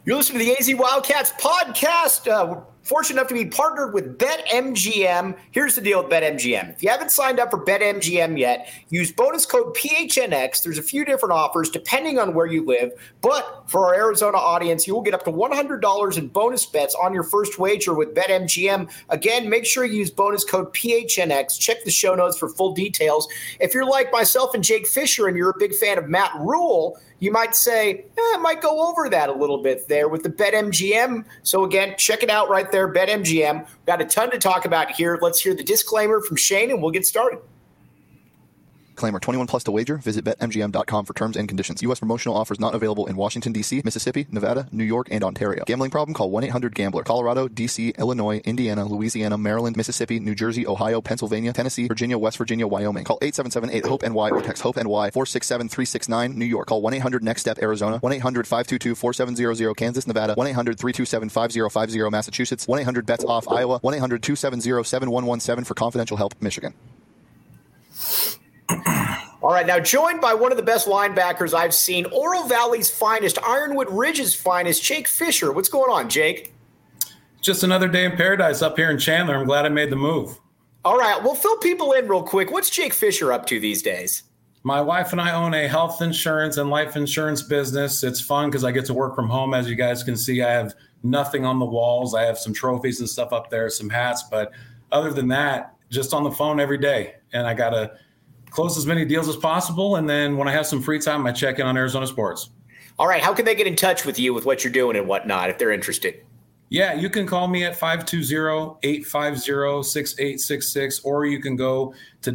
You're listening to the AZ Wildcats podcast. We're fortunate enough to be partnered with BetMGM. Here's the deal with BetMGM. If you haven't signed up for BetMGM yet, use bonus code PHNX. There's a few different offers depending on where you live. But for our Arizona audience, you will get up to $100 in bonus bets on your first wager with BetMGM. Again, make sure you use bonus code PHNX. Check the show notes for full details. If you're like myself and Jake Fisher and you're a big fan of Matt Rule, you might say, I might go over that a little bit there with the BetMGM. So again, check it out right there, BetMGM. We've got a ton to talk about here. Let's hear the disclaimer from Shane and we'll get started. Disclaimer, 21 plus to wager. Visit BetMGM.com for terms and conditions. U.S. promotional offers not available in Washington, D.C., Mississippi, Nevada, New York, and Ontario. Gambling problem? Call 1-800-GAMBLER. Colorado, D.C., Illinois, Indiana, Louisiana, Maryland, Mississippi, New Jersey, Ohio, Pennsylvania, Tennessee, Virginia, West Virginia, Wyoming. Call 877-8-HOPE-NY or text HOPE-NY 467-369. New York. Call 1-800-NEXT-STEP, Arizona. 1-800-522-4700, Kansas, Nevada. 1-800-327-5050, Massachusetts. 1-800-BETS-OFF, Iowa. 1-800-270-7117 for confidential help, Michigan. All right, now joined by one of the best linebackers I've seen, Oro Valley's finest, Ironwood Ridge's finest, Jake Fisher. What's going on, Jake? Just another day in paradise up here in Chandler. I'm glad I made the move. All right, well, fill people in real quick. What's Jake Fisher up to these days? My wife and I own a health insurance and life insurance business. It's fun because I get to work from home. As you guys can see, I have nothing on the walls. I have some trophies and stuff up there, some hats. But other than that, just on the phone every day. And I got to close as many deals as possible. And then when I have some free time, I check in on Arizona sports. All right. How can they get in touch with you with what you're doing and whatnot if they're interested? Yeah, you can call me at 520-850-6866, or you can go to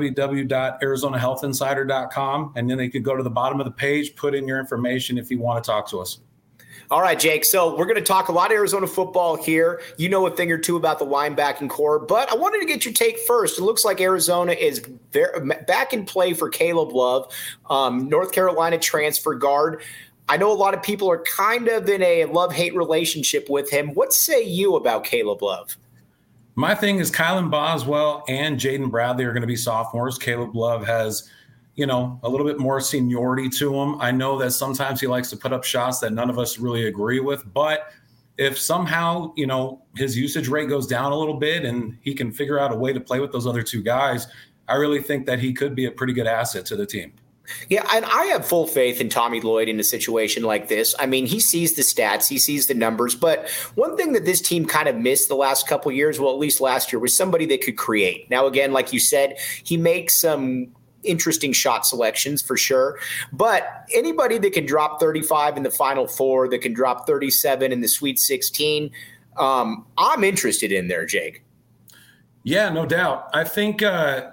www.arizonahealthinsider.com. And then they could go to the bottom of the page, put in your information if you want to talk to us. All right, Jake. So we're going to talk a lot of Arizona football here. You know a thing or two about the linebacking core, but I wanted to get your take first. It looks like Arizona is back in play for Caleb Love, North Carolina transfer guard. I know a lot of people are kind of in a love-hate relationship with him. What say you about Caleb Love? My thing is Kylan Boswell and Jaden Bradley are going to be sophomores. Caleb Love has a little bit more seniority to him. I know that sometimes he likes to put up shots that none of us really agree with, but if somehow, his usage rate goes down a little bit and he can figure out a way to play with those other two guys, I really think that he could be a pretty good asset to the team. Yeah, and I have full faith in Tommy Lloyd in a situation like this. I mean, he sees the stats, he sees the numbers, but one thing that this team kind of missed the last couple of years, well, at least last year, was somebody that could create. Now, again, like you said, he makes some interesting shot selections for sure, but anybody that can drop 35 in the Final Four, that can drop 37 in the Sweet 16, I'm interested in there, Jake. Yeah, no doubt. I think,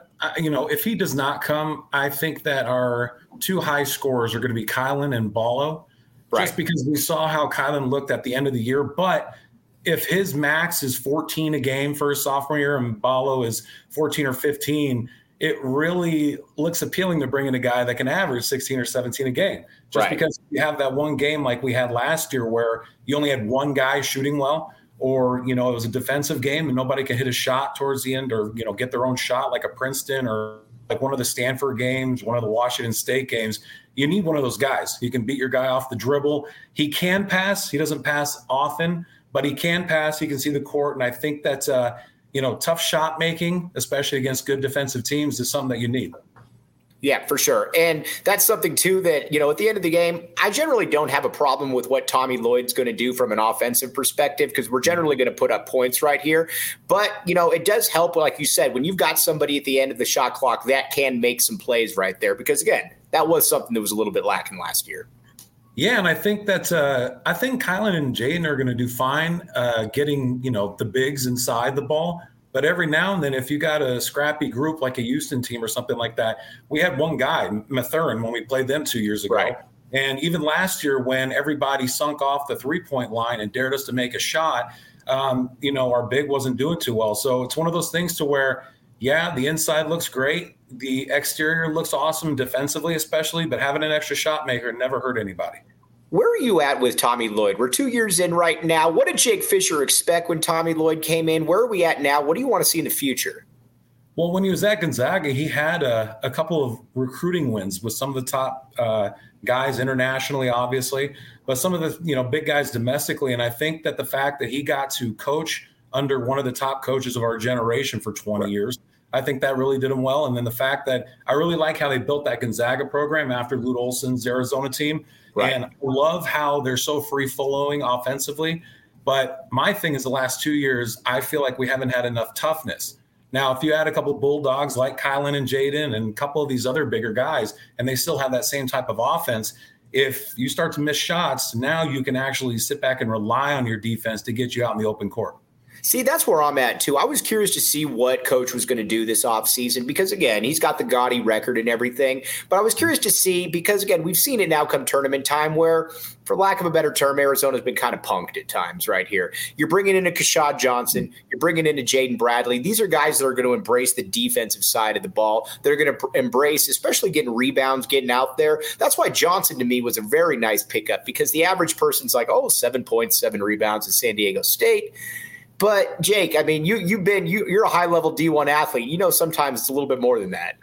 if he does not come, I think that our two high scorers are going to be Kylan and Ballo, right? Just because we saw how Kylan looked at the end of the year. But if his max is 14 a game for his sophomore year and Ballo is 14 or 15, it really looks appealing to bring in a guy that can average 16 or 17 a game. Just because you have that one game like we had last year where you only had one guy shooting well, or, it was a defensive game and nobody can hit a shot towards the end or, get their own shot like a Princeton or like one of the Stanford games, one of the Washington State games. You need one of those guys. You can beat your guy off the dribble. He can pass. He doesn't pass often, but he can pass. He can see the court. And I think that's tough shot making, especially against good defensive teams, is something that you need. Yeah, for sure. And that's something, too, that, at the end of the game, I generally don't have a problem with what Tommy Lloyd's going to do from an offensive perspective because we're generally going to put up points right here. But, it does help, like you said, when you've got somebody at the end of the shot clock that can make some plays right there because, again, that was something that was a little bit lacking last year. Yeah, and I think that Kylan and Jaden are going to do fine getting, the bigs inside the ball. But every now and then, if you got a scrappy group like a Houston team or something like that, we had one guy, Mathurin, when we played them 2 years ago. Right. And even last year when everybody sunk off the three-point line and dared us to make a shot, our big wasn't doing too well. So it's one of those things to where, yeah, the inside looks great. The exterior looks awesome defensively especially, but having an extra shot maker never hurt anybody. Where are you at with Tommy Lloyd? We're 2 years in right now. What did Jake Fisher expect when Tommy Lloyd came in? Where are we at now? What do you want to see in the future? Well, when he was at Gonzaga, he had a couple of recruiting wins with some of the top guys internationally, obviously, but some of the big guys domestically. And I think that the fact that he got to coach under one of the top coaches of our generation for 20 years, I think that really did him well. And then the fact that I really like how they built that Gonzaga program after Lute Olson's Arizona team. Right. And I love how they're so free-flowing offensively. But my thing is the last 2 years, I feel like we haven't had enough toughness. Now, if you add a couple of Bulldogs like Kylan and Jaden and a couple of these other bigger guys, and they still have that same type of offense, if you start to miss shots, now you can actually sit back and rely on your defense to get you out in the open court. See, that's where I'm at, too. I was curious to see what Coach was going to do this offseason because, again, he's got the gaudy record and everything. But I was curious to see because, again, we've seen it now come tournament time where, for lack of a better term, Arizona's been kind of punked at times right here. You're bringing in a Keshad Johnson. You're bringing in a Jaden Bradley. These are guys that are going to embrace the defensive side of the ball. They're going to embrace, especially getting rebounds, getting out there. That's why Johnson, to me, was a very nice pickup because the average person's like, 7 points, 7 rebounds at San Diego State. But Jake, I mean, you're a high-level D1 athlete. You know, sometimes it's a little bit more than that.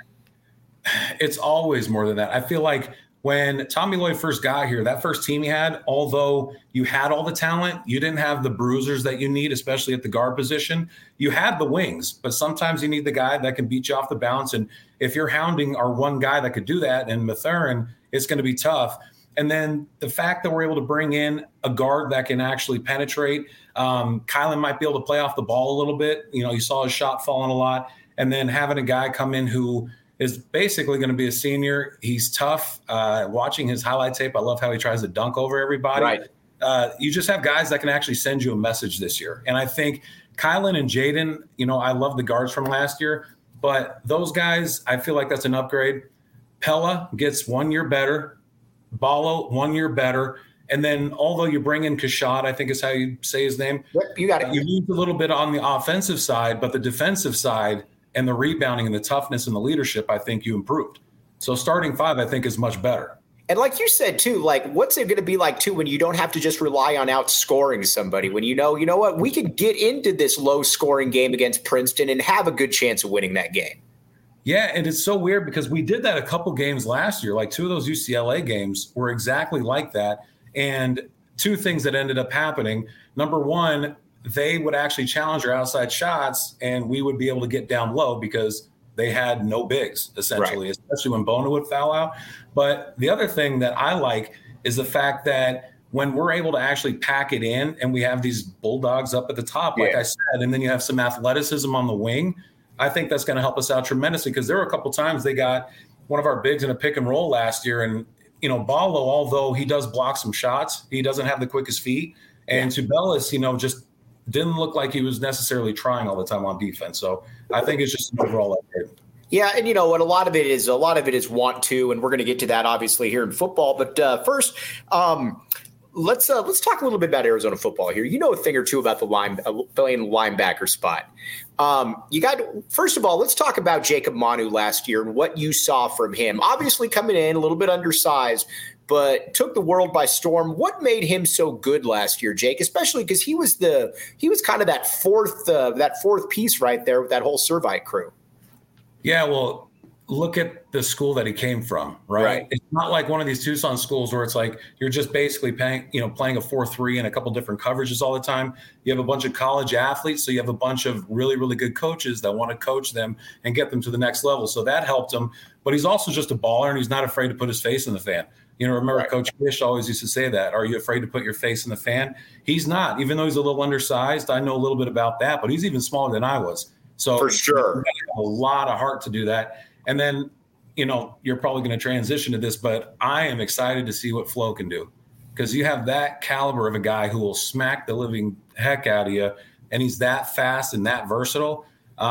It's always more than that. I feel like when Tommy Lloyd first got here, that first team he had, although you had all the talent, you didn't have the bruisers that you need, especially at the guard position. You had the wings, but sometimes you need the guy that can beat you off the bounce. And if you're hounding our one guy that could do that, and Mathurin, it's going to be tough. And then the fact that we're able to bring in a guard that can actually penetrate, Kylan might be able to play off the ball a little bit. You saw his shot falling a lot. And then having a guy come in who is basically going to be a senior. He's tough. Watching his highlight tape, I love how he tries to dunk over everybody. Right. You just have guys that can actually send you a message this year. And I think Kylan and Jaden, I love the guards from last year. But those guys, I feel like that's an upgrade. Pella gets 1 year better. Ballo, 1 year better. And then although you bring in Keshad, I think is how you say his name. Yep, you got it. You lose a little bit on the offensive side, but the defensive side and the rebounding and the toughness and the leadership, I think you improved. So starting 5, I think, is much better. And like you said, too, like what's it going to be like, too, when you don't have to just rely on outscoring somebody, when you know what, we could get into this low-scoring game against Princeton and have a good chance of winning that game. Yeah, and it's so weird because we did that a couple games last year. Like 2 of those UCLA games were exactly like that. And 2 things that ended up happening. Number one, they would actually challenge our outside shots, and we would be able to get down low because they had no bigs, essentially, right. Especially when Bona would foul out. But the other thing that I like is the fact that when we're able to actually pack it in and we have these Bulldogs up at the top, like I said, and then you have some athleticism on the wing, I think that's going to help us out tremendously because there were a couple times they got one of our bigs in a pick and roll last year. And, Ballo, although he does block some shots, he doesn't have the quickest feet. And Tubelis, just didn't look like he was necessarily trying all the time on defense. So I think it's just an overall upgrade. Yeah, and what a lot of it is want to, and we're going to get to that obviously here in football. But first, let's talk a little bit about Arizona football here. You know a thing or two about the playing linebacker spot. First of all, let's talk about Jacob Manu last year and what you saw from him. Obviously coming in a little bit undersized, but took the world by storm. What made him so good last year, Jake? Especially because he was kind of that fourth piece right there with that whole Servite crew. Yeah, well, look at the school that he came from, right? It's not like one of these Tucson schools where it's like you're just basically playing a 4-3 and a couple different coverages all the time. You have a bunch of college athletes, so you have a bunch of really, really good coaches that want to coach them and get them to the next level. So that helped him. But he's also just a baller, and he's not afraid to put his face in the fan. Remember Coach Fish always used to say that. Are you afraid to put your face in the fan? He's not. Even though he's a little undersized, I know a little bit about that, but he's even smaller than I was. So for sure, a lot of heart to do that. And then, you're probably going to transition to this, but I am excited to see what Flo can do because you have that caliber of a guy who will smack the living heck out of you, and he's that fast and that versatile.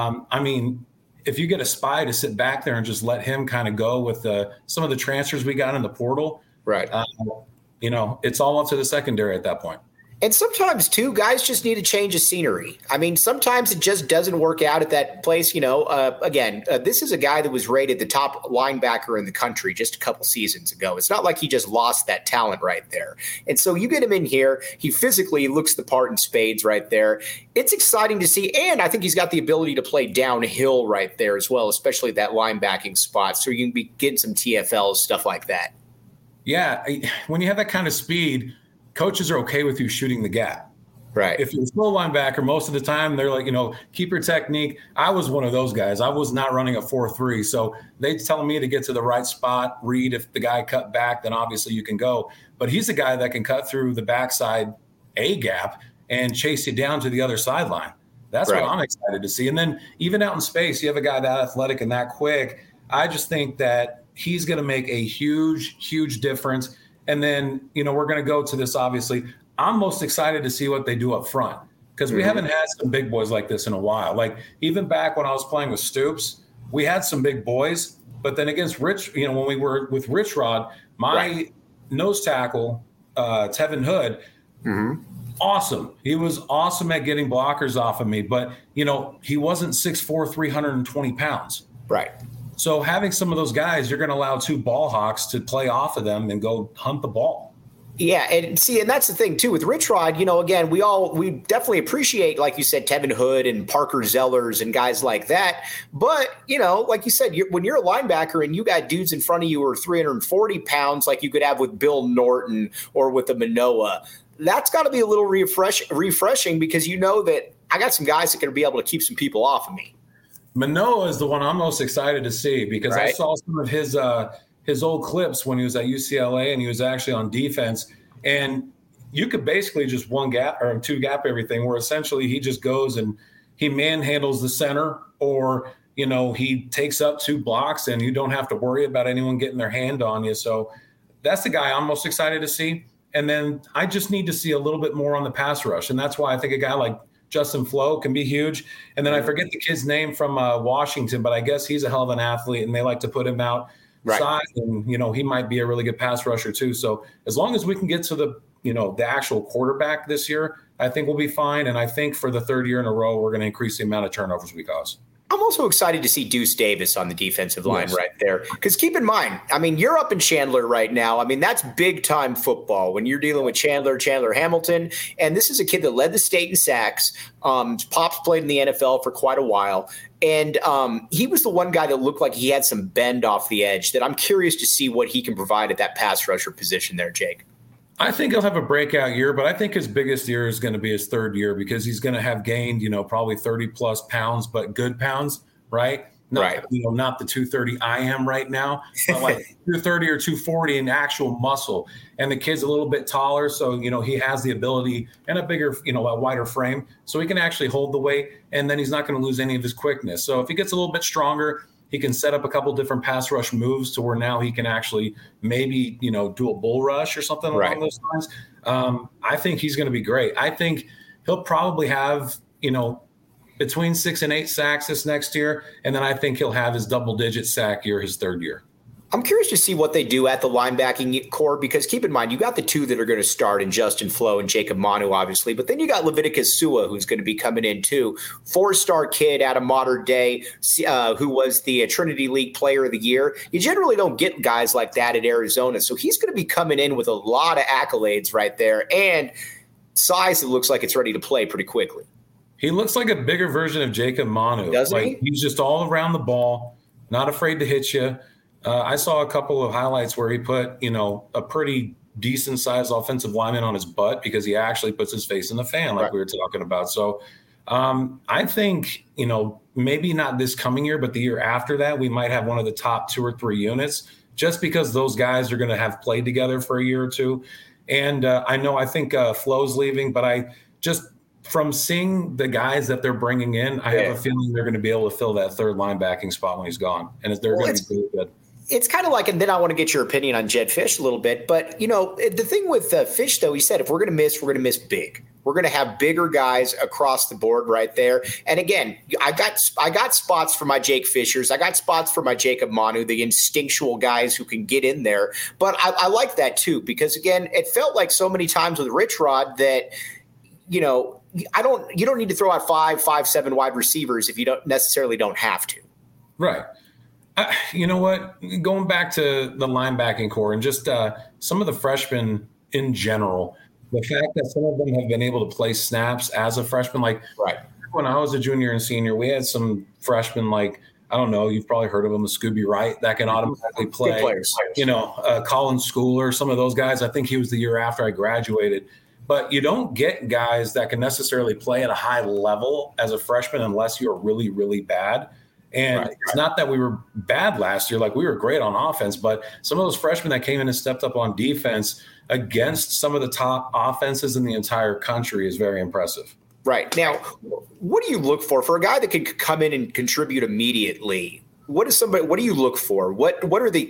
If you get a spy to sit back there and just let him kind of go with some of the transfers we got in the portal, right? It's all up to the secondary at that point. And sometimes, too, guys just need a change of scenery. Sometimes it just doesn't work out at that place. This is a guy that was rated the top linebacker in the country just a couple seasons ago. It's not like he just lost that talent right there. And so you get him in here. He physically looks the part in spades right there. It's exciting to see. And I think he's got the ability to play downhill right there as well, especially that linebacking spot. So you can be getting some TFLs, stuff like that. Yeah, when you have that kind of speed, coaches are okay with you shooting the gap. Right. If you're a slow linebacker, most of the time they're like, keep your technique. I was one of those guys. I was not running a 4.3. So they telling me to get to the right spot, read. If the guy cut back, then obviously you can go. But he's a guy that can cut through the backside A gap and chase you down to the other sideline. That's right. What I'm excited to see. And then even out in space, you have a guy that athletic and that quick. I just think that he's going to make a huge, huge difference. And then, we're going to go to this, obviously. I'm most excited to see what they do up front because we haven't had some big boys like this in a while. Like even back when I was playing with Stoops, we had some big boys, but then against Rich, when we were with Rich Rod, my nose tackle, Tevin Hood, awesome. He was awesome at getting blockers off of me, but he wasn't 6'4", 320 pounds. Right. So having some of those guys, you're going to allow two ball hawks to play off of them and go hunt the ball. Yeah, and that's the thing too with Rich Rod. Again, we definitely appreciate, like you said, Tevin Hood and Parker Zellers and guys like that. But like you said, when you're a linebacker and you got dudes in front of you who are 340 pounds, like you could have with Bill Norton or with a Manoa, that's got to be a little refreshing because that I got some guys that can be able to keep some people off of me. Manoa is the one I'm most excited to see because I saw some of his old clips when he was at UCLA and he was actually on defense, and you could basically just one gap or two gap everything, where essentially he just goes and he manhandles the center, or he takes up two blocks and you don't have to worry about anyone getting their hand on you. So that's the guy I'm most excited to see. And then I just need to see a little bit more on the pass rush, and that's why I think a guy like Justin Flo can be huge. And then I forget the kid's name from Washington, but I guess he's a hell of an athlete and they like to put him out. Right. Side, and he might be a really good pass rusher too. So as long as we can get to the actual quarterback this year, I think we'll be fine. And I think for the third year in a row, we're going to increase the amount of turnovers we cause. I'm also excited to see Deuce Davis on the defensive line right there. Because keep in mind, you're up in Chandler right now. That's big time football when you're dealing with Chandler Hamilton. And this is a kid that led the state in sacks. Pops played in the NFL for quite a while. And he was the one guy that looked like he had some bend off the edge that I'm curious to see what he can provide at that pass rusher position there, Jake. I think he'll have a breakout year, but I think his biggest year is going to be his third year because he's going to have gained, probably 30 plus pounds, but good pounds, right? Not the 230 I am right now, but like 230 or 240 in actual muscle. And the kid's a little bit taller, so, he has the ability and a bigger, a wider frame, so he can actually hold the weight, and then he's not going to lose any of his quickness. So if he gets a little bit stronger, he can set up a couple different pass rush moves to where now he can actually maybe, do a bull rush or something along those lines. I think he's going to be great. I think he'll probably have, between 6 and 8 sacks this next year. And then I think he'll have his double-digit sack year his third year. I'm curious to see what they do at the linebacking core because keep in mind, you got the two that are going to start in Justin Flo and Jacob Manu, obviously, but then you got Leviticus Sua, who's going to be coming in too. 4-star kid out of Modern Day, who was the Trinity League Player of the Year. You generally don't get guys like that at Arizona, so he's going to be coming in with a lot of accolades right there and size that looks like it's ready to play pretty quickly. He looks like a bigger version of Jacob Manu. Doesn't he? He's just all around the ball, not afraid to hit you. I saw a couple of highlights where he put, a pretty decent sized offensive lineman on his butt because he actually puts his face in the fan like we were talking about. So I think, maybe not this coming year, but the year after that, we might have one of the top 2 or 3 units just because those guys are going to have played together for a year or two. And I think Flo's leaving, but from seeing the guys that they're bringing in, I have a feeling they're going to be able to fill that third linebacking spot when he's gone. And they're going to be really good. It's kind of like, and then I want to get your opinion on Jedd Fisch a little bit. But, the thing with Fisch, though, he said, if we're going to miss big. We're going to have bigger guys across the board right there. And again, I got spots for my Jake Fishers. I got spots for my Jacob Manu, the instinctual guys who can get in there. But I like that, too, because, again, it felt like so many times with Rich Rod that, you don't need to throw out 5'7" wide receivers if you don't have to. Right. You know what? Going back to the linebacking core and just some of the freshmen in general, the fact that some of them have been able to play snaps as a freshman, when I was a junior and senior, we had some freshmen I don't know, you've probably heard of him, Scooby Wright, that can automatically play. Good players. Colin Schooler, some of those guys. I think he was the year after I graduated. But you don't get guys that can necessarily play at a high level as a freshman unless you're really, really bad. And it's not that we were bad last year. Like, we were great on offense, but some of those freshmen that came in and stepped up on defense against some of the top offenses in the entire country is very impressive. Right. Now, what do you look for a guy that can come in and contribute immediately? What do you look for? What are the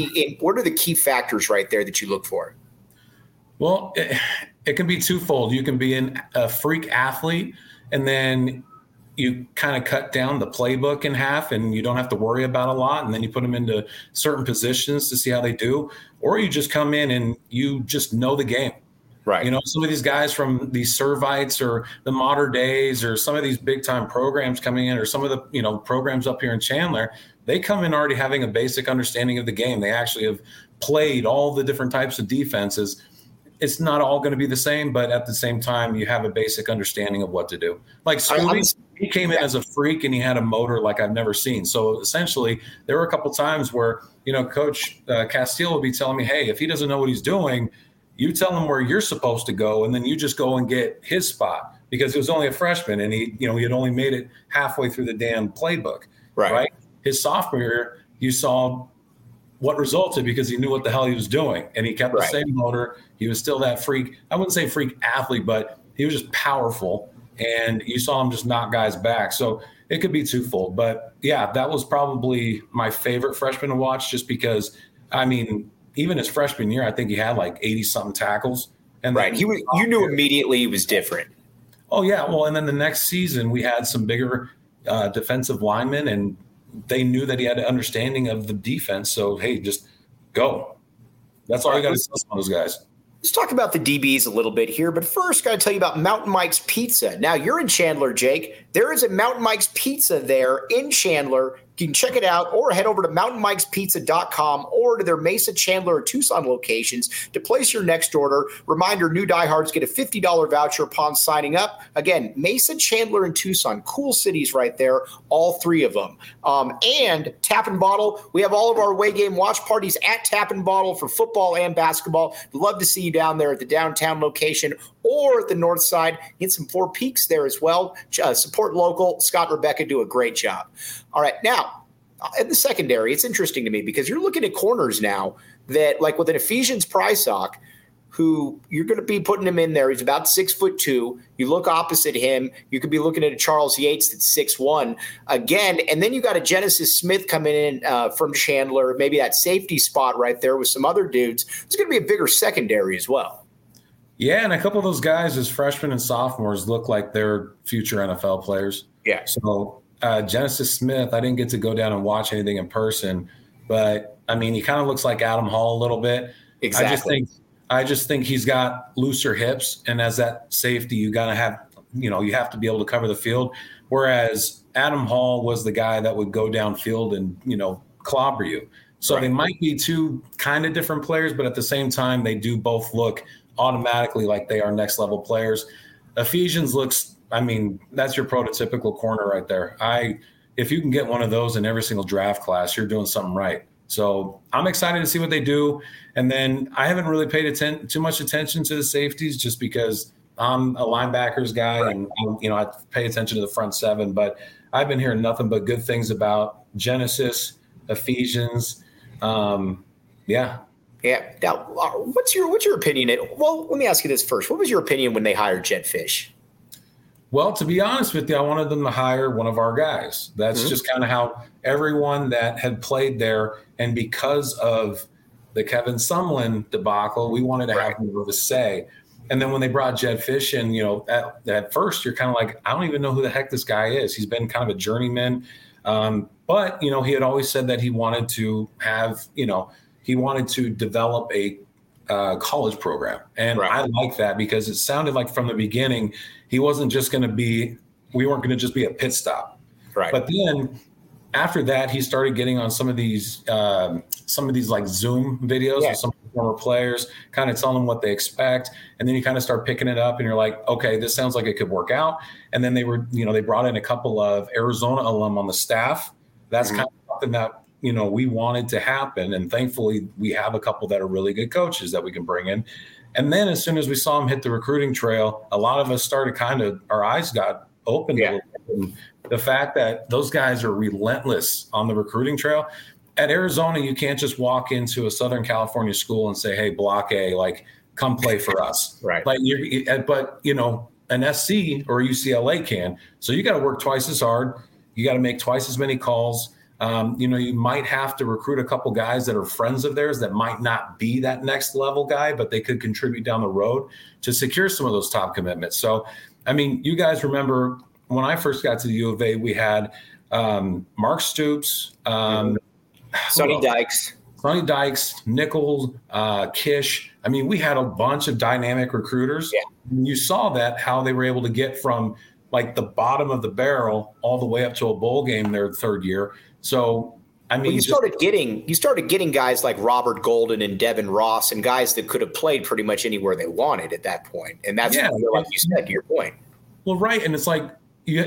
key factors right there that you look for? Well, it can be twofold. You can be a freak athlete, and then you kind of cut down the playbook in half and you don't have to worry about a lot. And then you put them into certain positions to see how they do. Or you just come in and you just know the game. Right. Some of these guys from these Servites or the Modern Days or some of these big time programs coming in, or some of the, programs up here in Chandler, they come in already having a basic understanding of the game. They actually have played all the different types of defenses. It's not all going to be the same, but at the same time, you have a basic understanding of what to do. Like Scooby, he came in as a freak and he had a motor like I've never seen. So essentially, there were a couple times where, Coach Castile would be telling me, hey, if he doesn't know what he's doing, you tell him where you're supposed to go, and then you just go and get his spot, because he was only a freshman and he had only made it halfway through the damn playbook. Right? His sophomore year, you saw what resulted because he knew what the hell he was doing, and he kept the same motor. He was still that freak. I wouldn't say freak athlete, but he was just powerful, and you saw him just knock guys back. So it could be twofold. But yeah, that was probably my favorite freshman to watch, just because, even his freshman year, I think he had like 80-something tackles. And you knew immediately he was different. Oh, yeah. Well, and then the next season we had some bigger defensive linemen, and they knew that he had an understanding of the defense. So, hey, just go. That's all you got to say on those guys. Let's talk about the DBs a little bit here, but first, got to tell you about Mountain Mike's Pizza. Now, you're in Chandler, Jake. There is a Mountain Mike's Pizza there in Chandler. You can check it out, or head over to mountainmikespizza.com or to their Mesa, Chandler, or Tucson locations to place your next order. Reminder, new diehards get a $50 voucher upon signing up. Again, Mesa, Chandler, and Tucson, cool cities right there, all three of them. And Tap and Bottle, we have all of our away game watch parties at Tap and Bottle for football and basketball. We'd love to see you down there at the downtown location or at the north side. Get some Four Peaks there as well. Support local. Scott and Rebecca do a great job. All right, now, in the secondary, it's interesting to me because you're looking at corners now that, like with an Ephesians Prysock, who you're going to be putting him in there. He's about 6'2". You look opposite him. You could be looking at a Charles Yates that's 6'1". Again, and then you got a Genesis Smith coming in from Chandler, maybe that safety spot right there with some other dudes. It's going to be a bigger secondary as well. Yeah, and a couple of those guys as freshmen and sophomores look like they're future NFL players. Yeah. So Genesis Smith, I didn't get to go down and watch anything in person, but, he kind of looks like Adam Hall a little bit. Exactly. I just think he's got looser hips, and as that safety, you got to have, you have to be able to cover the field. Whereas Adam Hall was the guy that would go downfield and, clobber you. So They might be two kind of different players, but at the same time, they do both look automatically like they are next level players. Ephesians looks, that's your prototypical corner right there. If you can get one of those in every single draft class, you're doing something right. So I'm excited to see what they do. And then I haven't really paid too much attention to the safeties just because I'm a linebackers guy and, I pay attention to the front seven. But I've been hearing nothing but good things about Genesis, Ephesians. Yeah. Now, what's your opinion? Well, let me ask you this first. What was your opinion when they hired Jedd Fisch? Well, to be honest with you, I wanted them to hire one of our guys. That's just kind of how everyone that had played there, and because of the Kevin Sumlin debacle, we wanted to have more of a say. And then when they brought Jedd Fisch in, at first you're kind of like, I don't even know who the heck this guy is. He's been kind of a journeyman. But, he had always said that he wanted to have, he wanted to develop a college program. And I like that because it sounded like from the beginning, we weren't going to just be a pit stop. Right. But then after that, he started getting on some of these like Zoom videos with some former players, kind of telling them what they expect. And then you kind of start picking it up and you're like, okay, this sounds like it could work out. And then they brought in a couple of Arizona alum on the staff. That's kind of something that, we wanted to happen. And thankfully we have a couple that are really good coaches that we can bring in. And then as soon as we saw him hit the recruiting trail, a lot of us started our eyes got opened a little bit. And the fact that those guys are relentless on the recruiting trail. At Arizona, you can't just walk into a Southern California school and say, hey, Block A, like, come play for us. Right. Like, but an SC or UCLA can. So you got to work twice as hard. You got to make twice as many calls. You might have to recruit a couple guys that are friends of theirs that might not be that next level guy, but they could contribute down the road to secure some of those top commitments. So, I mean, you guys remember when I first got to the U of A, we had Mark Stoops, Sonny Dykes, Nichols, Kish. I mean, we had a bunch of dynamic recruiters. Yeah. You saw that, how they were able to get from like the bottom of the barrel all the way up to a bowl game their third year. So, I mean, you started getting guys like Robert Golden and Devin Ross and guys that could have played pretty much anywhere they wanted at that point. And that's like you said, to your point. Well, right. And it's like,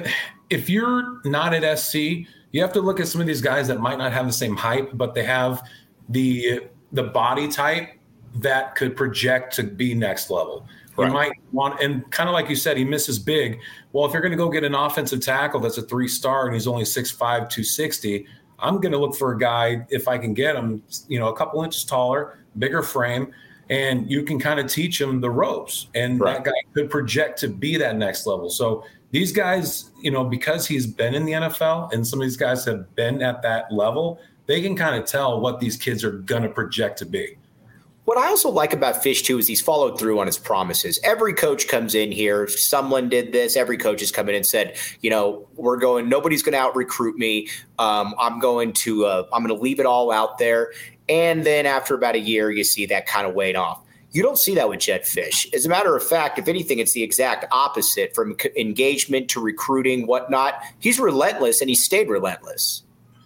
if you're not at SC, you have to look at some of these guys that might not have the same hype, but they have the body type that could project to be next level. Right. You might want, and kind of like you said, he misses big. Well, if you're going to go get an offensive tackle that's a 3-star and he's only 6'5", 260, I'm going to look for a guy, if I can get him, a couple inches taller, bigger frame, and you can kind of teach him the ropes. And that guy could project to be that next level. So these guys, because he's been in the NFL and some of these guys have been at that level, they can kind of tell what these kids are going to project to be. What I also like about Fisch, too, is he's followed through on his promises. Every coach comes in here. Someone did this. Every coach has come in and said, nobody's going to out-recruit me. I'm going to leave it all out there. And then after about a year, you see that kind of wane off. You don't see that with Jedd Fisch. As a matter of fact, if anything, it's the exact opposite, from engagement to recruiting, whatnot. He's relentless, and he stayed relentless.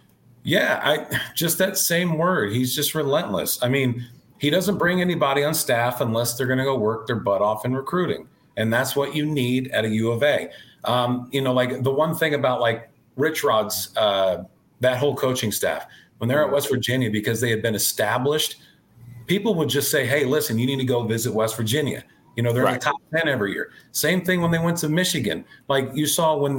Yeah, just that same word. He's just relentless. I mean, he doesn't bring anybody on staff unless they're going to go work their butt off in recruiting. And that's what you need at a U of A. Like the one thing about like Rich Rod's, that whole coaching staff, when they're at West Virginia, because they had been established, people would just say, hey, listen, you need to go visit West Virginia. They're in the top 10 every year. Same thing when they went to Michigan. Like you saw when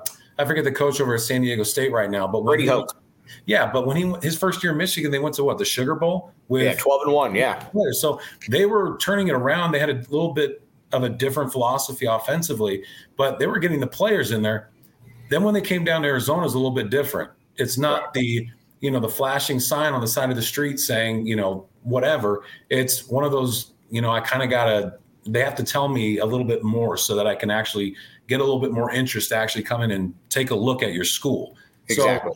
I forget the coach over at San Diego State right now, but Brady Hoke. Yeah, but when his first year in Michigan, they went to the Sugar Bowl with 12-1, yeah. So they were turning it around. They had a little bit of a different philosophy offensively, but they were getting the players in there. Then when they came down to Arizona, it was a little bit different. It's not the flashing sign on the side of the street saying, whatever. It's one of those, I kind of they have to tell me a little bit more so that I can actually get a little bit more interest to actually come in and take a look at your school. Exactly. So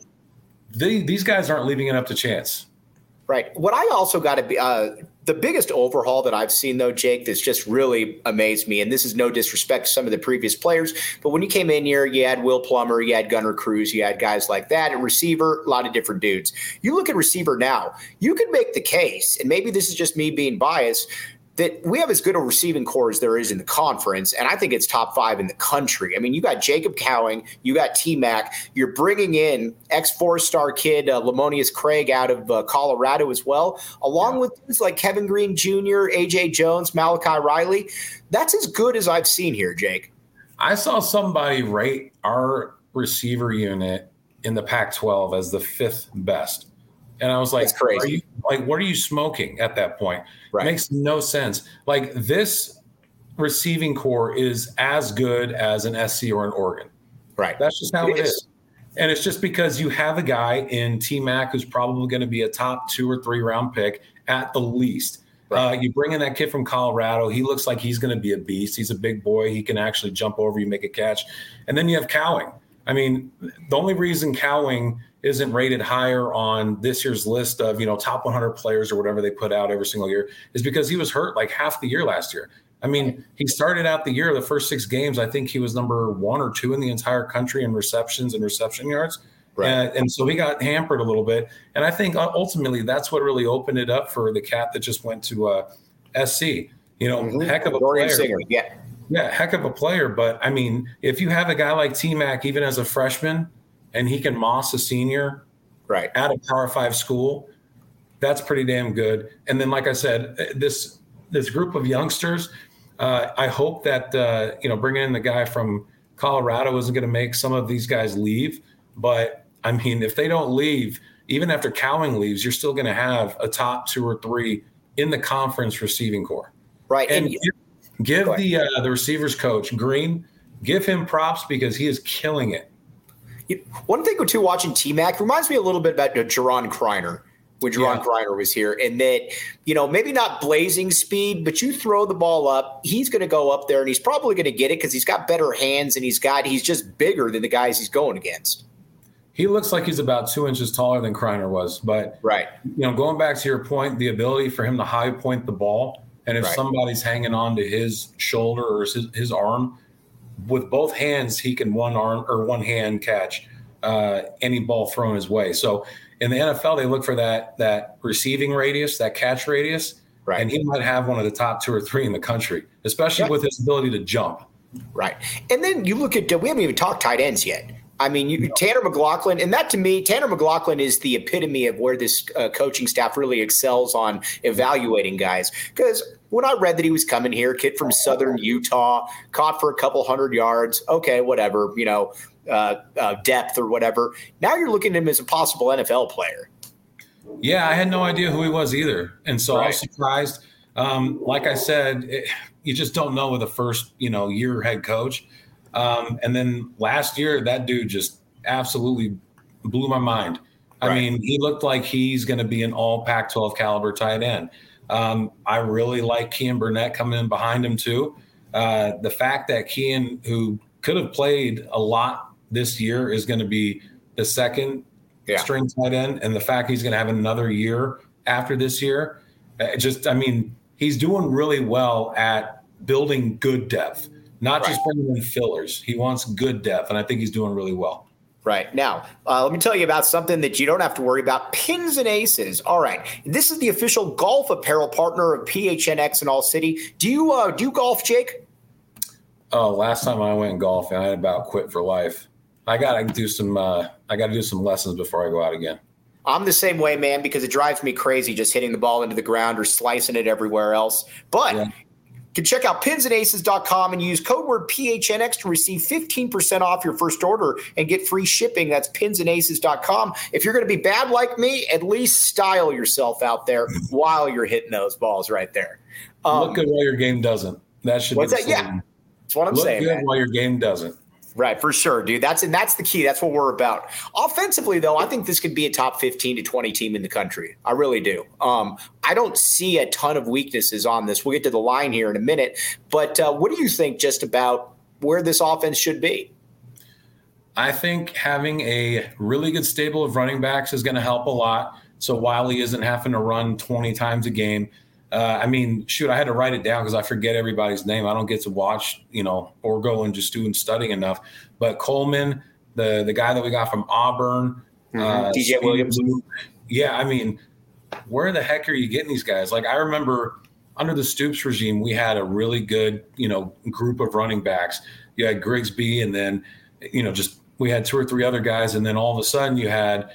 these guys aren't leaving it up to chance. Right. What I also got to be the biggest overhaul that I've seen, though, Jake, that's just really amazed me, and this is no disrespect to some of the previous players, but when you came in here, you had Will Plummer, you had Gunnar Cruz, you had guys like that, and receiver, a lot of different dudes. You look at receiver now, you could make the case, and maybe this is just me being biased, that we have as good a receiving core as there is in the conference, and I think it's top 5 in the country. I mean, you got Jacob Cowing, you got T-Mac, you're bringing in ex-4-star kid Lamonius Craig out of Colorado as well, along with dudes like Kevin Green Jr., A.J. Jones, Malachi Riley. That's as good as I've seen here, Jake. I saw somebody rate our receiver unit in the Pac-12 as the 5th best. And I was like, that's crazy. What are you smoking at that point? Right. It makes no sense. Like, this receiving core is as good as an SC or an Oregon. Right. That's just how it is. And it's just because you have a guy in T-Mac who's probably going to be a top 2 or 3 round pick at the least. Right. You bring in that kid from Colorado. He looks like he's going to be a beast. He's a big boy. He can actually jump over you, make a catch. And then you have Cowing. I mean, the only reason Cowing isn't rated higher on this year's list of, top 100 players or whatever they put out every single year is because he was hurt like half the year last year. I mean, he started out the year, the first 6 games, I think he was number 1 or 2 in the entire country in receptions and reception yards. Right. And so he got hampered a little bit. And I think ultimately that's what really opened it up for the cat that just went to SC. Heck of a player. Singer. Yeah, heck of a player. But, I mean, if you have a guy like T-Mac, even as a freshman, and he can moss a senior right, at a Power 5 school, that's pretty damn good. And then, like I said, this group of youngsters, I hope that bringing in the guy from Colorado isn't going to make some of these guys leave. But I mean, if they don't leave, even after Cowing leaves, you're still going to have a top 2 or 3 in the conference receiving core. Right. And give the receivers coach Green, give him props because he is killing it. One thing, too, watching T-Mac reminds me a little bit about Jaron Kreiner when Jaron Kreiner was here, and that, maybe not blazing speed, but you throw the ball up, he's going to go up there, and he's probably going to get it because he's got better hands, and he's just bigger than the guys he's going against. He looks like he's about 2 inches taller than Kreiner was, but going back to your point, the ability for him to high point the ball, and if somebody's hanging on to his shoulder or his arm, with both hands, he can one hand catch any ball thrown his way. So in the NFL, they look for that receiving radius, that catch radius, and he might have one of the top 2 or 3 in the country, especially with his ability to jump. Right. And then you look at, we haven't even talked tight ends yet. I mean, Tanner McLaughlin, and that to me, Tanner McLaughlin is the epitome of where this coaching staff really excels on evaluating guys. Because when I read that he was coming here, kid from Southern Utah, caught for a couple 100 yards, okay, whatever, depth or whatever. Now you're looking at him as a possible NFL player. Yeah, I had no idea who he was either. And so I was surprised. Like I said, you just don't know with a first, year head coach. And then last year, that dude just absolutely blew my mind. I mean, he looked like he's going to be an all Pac-12 caliber tight end. I really like Kean Burnett coming in behind him too. The fact that Kean, who could have played a lot this year, is going to be the second string tight end, and the fact he's going to have another year after this year, he's doing really well at building good depth. Not just bringing in fillers. He wants good depth, and I think he's doing really well. Right. Now, let me tell you about something that you don't have to worry about. Pins and Aces. All right. This is the official golf apparel partner of PHNX in All City. Do you golf, Jake? Oh, last time I went golfing, I had about quit for life. I got to do some lessons before I go out again. I'm the same way, man, because it drives me crazy just hitting the ball into the ground or slicing it everywhere else. But you can check out pinsandaces.com and use code word PHNX to receive 15% off your first order and get free shipping. That's pinsandaces.com. If you're going to be bad like me, at least style yourself out there while you're hitting those balls right there. Look good while your game doesn't. That should be the slogan. Yeah, that's what I'm saying. Look good man. while your game doesn't. Right, for sure, dude. That's the key. That's what we're about. Offensively, though, I think this could be a top 15 to 20 team in the country. I really do. I don't see a ton of weaknesses on this. We'll get to the line here in a minute. But what do you think just about where this offense should be? I think having a really good stable of running backs is going to help a lot. So Wiley isn't having to run 20 times a game. I had to write it down because I forget everybody's name. I don't get to watch, or go and just do studying enough. But Coleman, the guy that we got from Auburn, DJ Williams. Yeah, where the heck are you getting these guys? Like, I remember under the Stoops regime, we had a really good, group of running backs. You had Grigsby, and then, we had 2 or 3 other guys, and then all of a sudden you had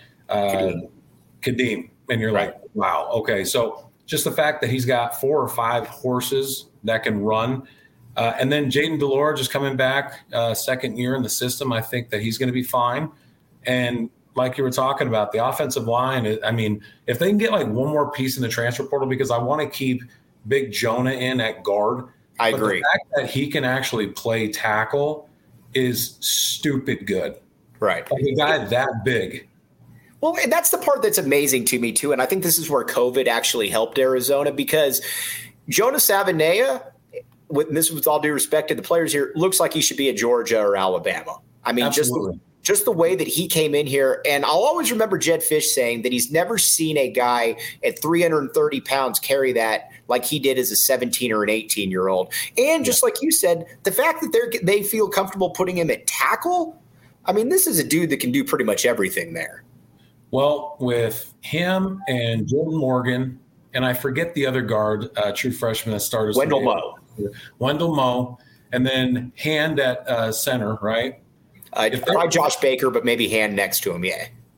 Kadeem, and you're like, wow, okay, so. Just the fact that he's got 4 or 5 horses that can run. And then Jaden Delore just coming back second year in the system. I think that he's going to be fine. And like you were talking about, the offensive line, if they can get like one more piece in the transfer portal, because I want to keep Big Jonah in at guard. I agree. The fact that he can actually play tackle is stupid good. Right. Like a guy that big. Well, and that's the part that's amazing to me, too. And I think this is where COVID actually helped Arizona, because Jonah Savanea, and this is with all due respect to the players here, looks like he should be at Georgia or Alabama. Just the way that he came in here. And I'll always remember Jed Fish saying that he's never seen a guy at 330 pounds carry that like he did as a 17 or an 18-year-old. And just like you said, the fact that they feel comfortable putting him at tackle, this is a dude that can do pretty much everything there. Well, with him and Jordan Morgan, and I forget the other guard, true freshman that started. Wendell Moe, and then Hand at center, right? Probably Josh Baker, but maybe Hand next to him, yeah.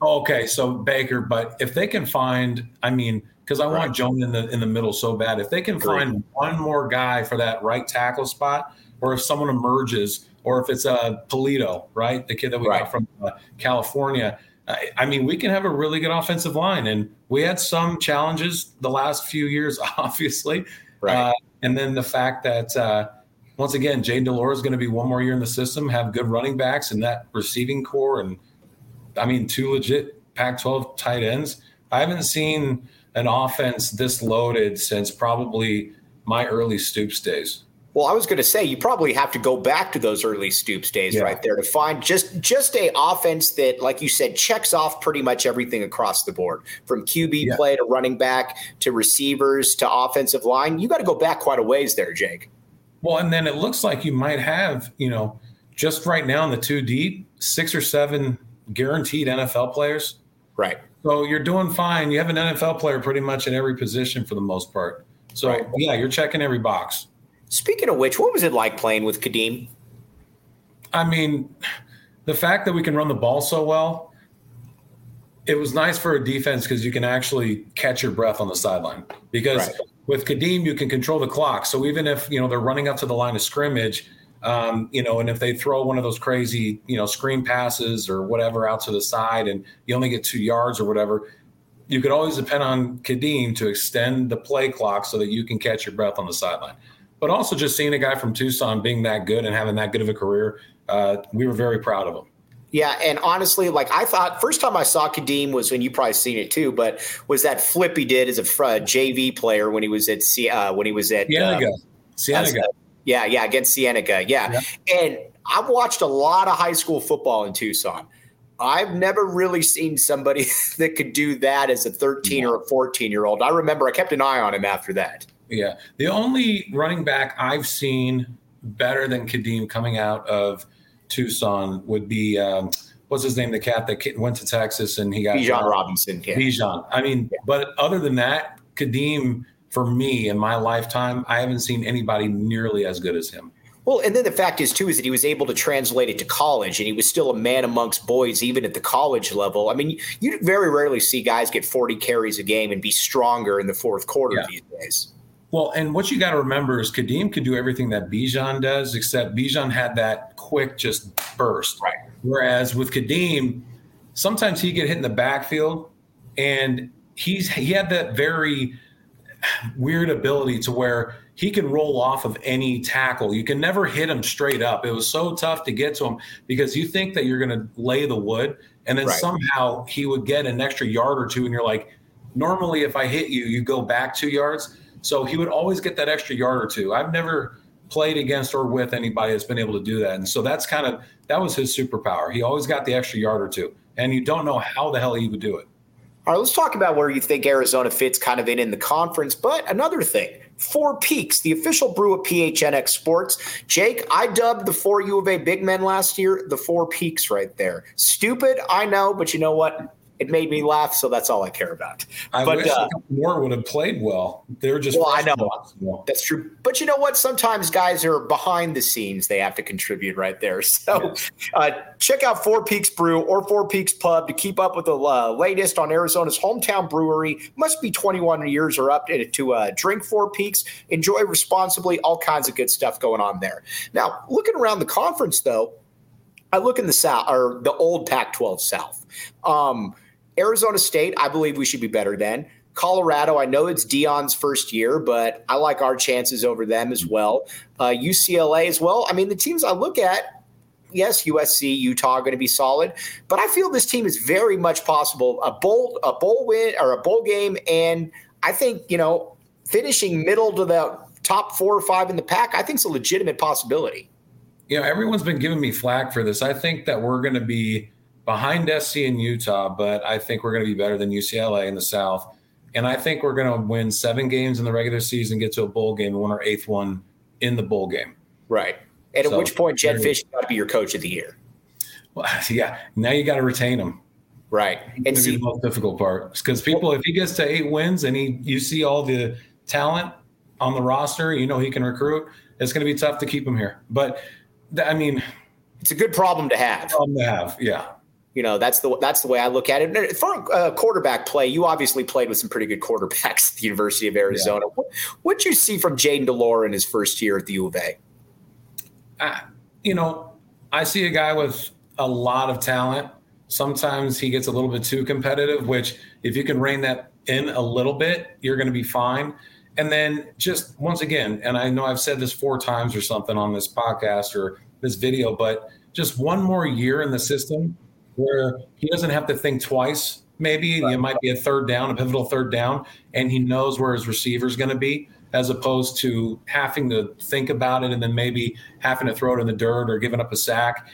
Okay, so Baker, but if they can find, because I want Jones in the middle so bad. If they can find one more guy for that right tackle spot, or if someone emerges, or if it's a Polito, right, the kid that we got from California, we can have a really good offensive line. And we had some challenges the last few years, obviously. Right. And then the fact that once again, Jay Delore is going to be one more year in the system, have good running backs and that receiving core, and two legit Pac-12 tight ends. I haven't seen an offense this loaded since probably my early Stoops days. Well, I was going to say you probably have to go back to those early Stoops days right there to find just a offense that, like you said, checks off pretty much everything across the board, from QB play to running back to receivers to offensive line. You got to go back quite a ways there, Jake. Well, and then it looks like you might have, just right now in the 2 deep, 6 or 7 guaranteed NFL players. Right. So you're doing fine. You have an NFL player pretty much in every position for the most part. So, you're checking every box. Speaking of which, what was it like playing with Kadeem? The fact that we can run the ball so well, it was nice for a defense because you can actually catch your breath on the sideline. Because with Kadeem, you can control the clock. So even if, they're running up to the line of scrimmage, and if they throw one of those crazy, screen passes or whatever out to the side and you only get 2 yards or whatever, you could always depend on Kadeem to extend the play clock so that you can catch your breath on the sideline. But also just seeing a guy from Tucson being that good and having that good of a career, we were very proud of him. Yeah, and honestly, I thought first time I saw Kadeem was when you probably seen it too, but was that flip he did as a JV player when he was at Cienega. Against Cienega. Yeah. And I've watched a lot of high school football in Tucson. I've never really seen somebody that could do that as a 13 or a 14-year-old. I remember I kept an eye on him after that. Yeah. The only running back I've seen better than Kadeem coming out of Tucson would be, what's his name, the cat that went to Texas and he got Bijan Robinson. Yeah. Bijan. But other than that, Kadeem, for me in my lifetime, I haven't seen anybody nearly as good as him. Well, and then the fact is, too, is that he was able to translate it to college, and he was still a man amongst boys, even at the college level. You very rarely see guys get 40 carries a game and be stronger in the fourth quarter these days. Well, and what you got to remember is Kadeem could do everything that Bijan does, except Bijan had that quick just burst. Right. Whereas with Kadeem, sometimes he'd get hit in the backfield, and he had that very weird ability to where he can roll off of any tackle. You can never hit him straight up. It was so tough to get to him because you think that you're going to lay the wood, and then somehow he would get an extra yard or two, and you're like, normally if I hit you, you go back 2 yards. So he would always get that extra yard or two. I've never played against or with anybody that's been able to do that. And so that was his superpower. He always got the extra yard or two, and you don't know how the hell he would do it. All right, let's talk about where you think Arizona fits kind of in the conference. But another thing, Four Peaks, the official brew of PHNX Sports. Jake, I dubbed the 4 U of A big men last year the Four Peaks right there. Stupid, I know, but you know what? It made me laugh, so that's all I care about. I wish a couple more would have played well. They were just I know. That's true. But you know what? Sometimes guys are behind the scenes. They have to contribute right there. So check out Four Peaks Brew or Four Peaks Pub to keep up with the latest on Arizona's hometown brewery. Must be 21 years or up to drink Four Peaks. Enjoy responsibly. All kinds of good stuff going on there. Now, looking around the conference, though, I look in the South or the old Pac-12 South. Arizona State, I believe we should be better than. Colorado, I know it's Deion's first year, but I like our chances over them as well. UCLA as well. The teams I look at, yes, USC, Utah are going to be solid, but I feel this team is very much possible. A bowl win or a bowl game, and I think, finishing middle to the top 4 or 5 in the pack, I think it's a legitimate possibility. Everyone's been giving me flack for this. I think that we're going to be behind SC and Utah, but I think we're going to be better than UCLA in the South. And I think we're going to win 7 games in the regular season, get to a bowl game, and win our 8th one in the bowl game. Right. And at which point, Jedd Fisch got to be your coach of the year. Well, yeah. Now you got to retain him. Right. And see the most difficult part because if he gets to 8 wins and you see all the talent on the roster, he can recruit. It's going to be tough to keep him here. But it's a good problem to have. Yeah. That's the way I look at it. And for quarterback play, you obviously played with some pretty good quarterbacks at the University of Arizona. Yeah. What'd you see from Jayden de Laura in his first year at the U of A? I see a guy with a lot of talent. Sometimes he gets a little bit too competitive, which if you can rein that in a little bit, you're going to be fine. And then just once again, and I know I've said this 4 times or something on this podcast or this video, but just one more year in the system where he doesn't have to think twice. Maybe it might be a pivotal third down, and he knows where his receiver is going to be, as opposed to having to think about it and then maybe having to throw it in the dirt or giving up a sack.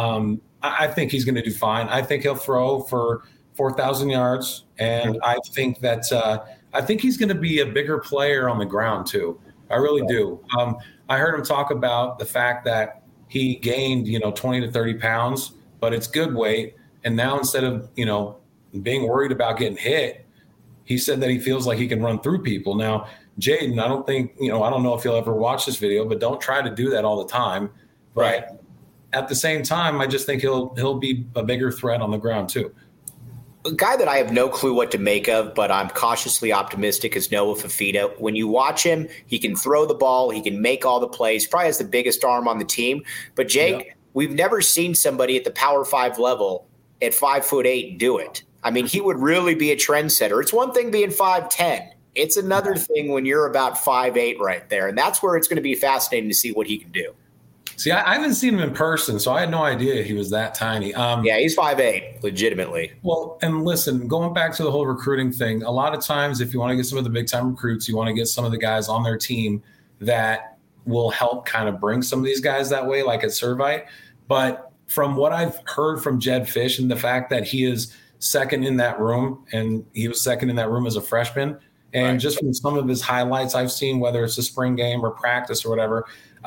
I think he's going to do fine. I think he'll throw for 4,000 yards, and I think that I think he's going to be a bigger player on the ground too. I really do. I heard him talk about the fact that he gained 20 to 30 pounds, but it's good weight. And now instead of being worried about getting hit, he said that he feels like he can run through people. Now, Jayden, I don't think I don't know if you'll ever watch this video, but don't try to do that all the time. But right. At the same time, I just think he'll be a bigger threat on the ground too. A guy that I have no clue what to make of, but I'm cautiously optimistic is Noah Fifita. When you watch him, he can throw the ball. He can make all the plays. Probably has the biggest arm on the team. But, Jake, we've never seen somebody at the Power 5 level at 5'8" do it. I mean, he would really be a trendsetter. It's one thing being 5'10". It's another thing when you're about 5'8" right there. And that's where it's going to be fascinating to see what he can do. See, I haven't seen him in person, so I had no idea he was that tiny. Yeah, he's 5'8", legitimately. Well, and listen, going back to the whole recruiting thing, a lot of times if you want to get some of the big-time recruits, you want to get some of the guys on their team that will help kind of bring some of these guys that way, like at Servite. But from what I've heard from Jedd Fisch and the fact that he is second in that room, and he was second in that room as a freshman, and just from some of his highlights I've seen, whether it's a spring game or practice or whatever,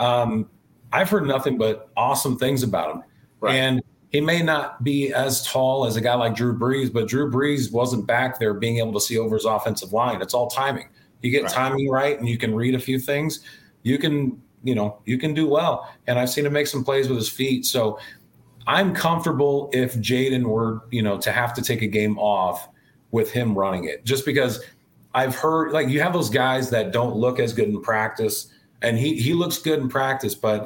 I've heard nothing but awesome things about him. Right. And he may not be as tall as a guy like Drew Brees, but Drew Brees wasn't back there being able to see over his offensive line. It's all timing. You get timing right and you can read a few things, you can do well. And I've seen him make some plays with his feet. So I'm comfortable if Jayden were, to have to take a game off with him running it, just because I've heard, like, you have those guys that don't look as good in practice, and he looks good in practice, but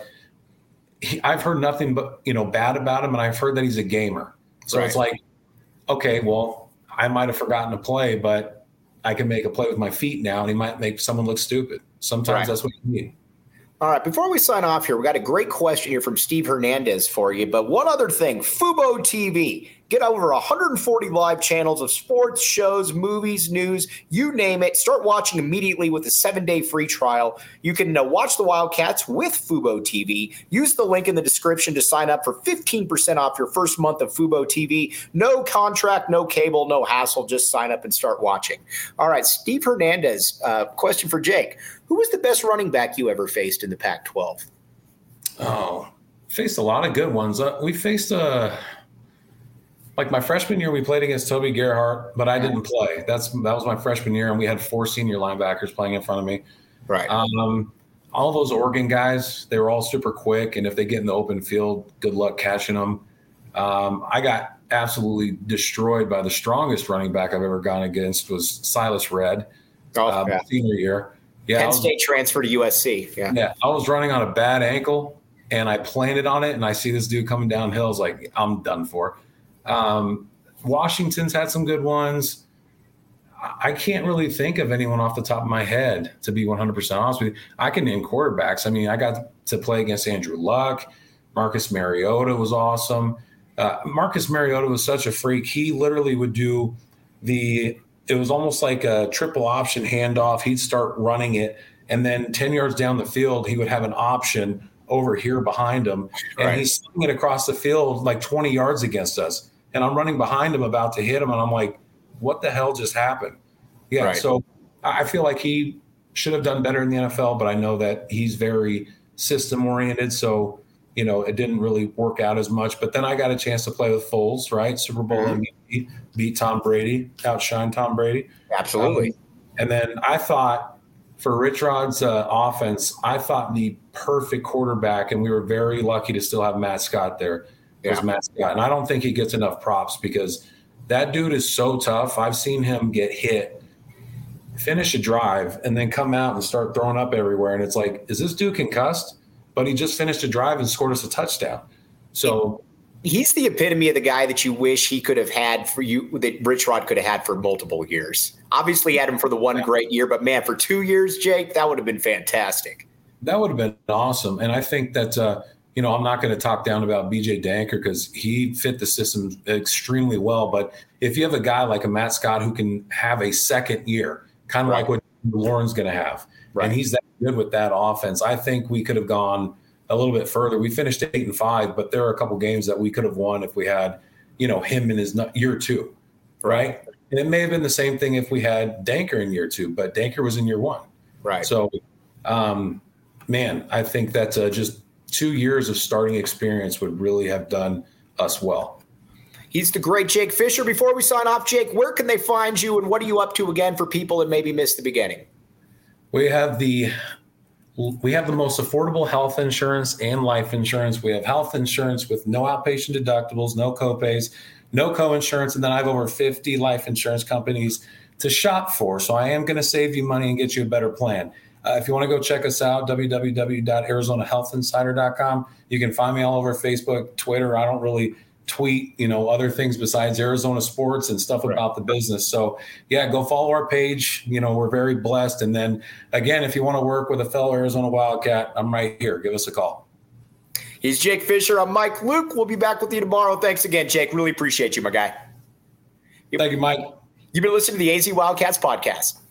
I've heard nothing but, bad about him, and I've heard that he's a gamer. So it's like, okay, well, I might have forgotten to play, but I can make a play with my feet now, and he might make someone look stupid. Sometimes that's what you need. All right, before we sign off here, we got a great question here from Steve Hernandez for you. But one other thing, Fubo TV. Get over 140 live channels of sports, shows, movies, news, you name it. Start watching immediately with a 7-day free trial. You can watch the Wildcats with Fubo TV. Use the link in the description to sign up for 15% off your first month of Fubo TV. No contract, no cable, no hassle. Just sign up and start watching. All right, Steve Hernandez, question for Jake. Who was the best running back you ever faced in the Pac-12? Oh, faced a lot of good ones. We faced like my freshman year, we played against Toby Gerhart, but I didn't play. That was my freshman year, and we had 4 senior linebackers playing in front of me. Right. All those Oregon guys, they were all super quick, and if they get in the open field, good luck catching them. I got absolutely destroyed by the strongest running back I've ever gone against was Silas Redd, senior year. Yeah, Penn State transfer to USC. Yeah, I was running on a bad ankle, and I planted on it, and I see this dude coming downhill. I was like, I'm done for. Washington's had some good ones. I can't really think of anyone off the top of my head, to be 100% honest with you. I can name quarterbacks. I mean, I got to play against Andrew Luck. Marcus Mariota was awesome. Marcus Mariota was such a freak. He literally would do it was almost like a triple option handoff. He'd start running it, and then 10 yards down the field, he would have an option over here behind him, and he's swinging it across the field like 20 yards against us. And I'm running behind him about to hit him, and I'm like, what the hell just happened? Yeah, so I feel like he should have done better in the NFL, but I know that he's very system-oriented, so, it didn't really work out as much. But then I got a chance to play with Foles, right? Super Bowl MVP, beat Tom Brady, outshine Tom Brady. Absolutely. And then I thought for Rich Rod's offense, I thought the perfect quarterback, and we were very lucky to still have Matt Scott there, was Matt Scott. And I don't think he gets enough props because that dude is so tough. I've seen him get hit, finish a drive, and then come out and start throwing up everywhere. And it's like, is this dude concussed? But he just finished a drive and scored us a touchdown. So he's the epitome of the guy that you wish he could have had for you, that Rich Rod could have had for multiple years. Obviously, he had him for the one great year, but man, for 2 years, Jake, that would have been fantastic. That would have been awesome. And I think that, I'm not going to talk down about BJ Danker because he fit the system extremely well. But if you have a guy like a Matt Scott who can have a second year, kind of like what Lauren's going to have, and he's that good with that offense, I think we could have gone a little bit further. We finished 8-5, but there are a couple games that we could have won if we had, him in his year 2, right? And it may have been the same thing if we had Danker in year 2, but Danker was in year 1. Right. So, man, I think that just 2 years of starting experience would really have done us well. He's the great Jake Fisher. Before we sign off, Jake, where can they find you and what are you up to again for people that maybe missed the beginning? We have the most affordable health insurance and life insurance. We have health insurance with no outpatient deductibles, no copays, no co-insurance, and then I have over 50 life insurance companies to shop for. So I am going to save you money and get you a better plan. If you want to go check us out, www.arizonahealthinsider.com. You can find me all over Facebook, Twitter. I don't really tweet, other things besides Arizona sports and stuff about the business. So yeah, go follow our page. We're very blessed. And then again, if you want to work with a fellow Arizona Wildcat, I'm right here. Give us a call. He's Jake Fisher. I'm Mike Luke. We'll be back with you tomorrow. Thanks again, Jake. Really appreciate you, my guy. Thank you, Mike. You've been listening to the AZ Wildcats podcast.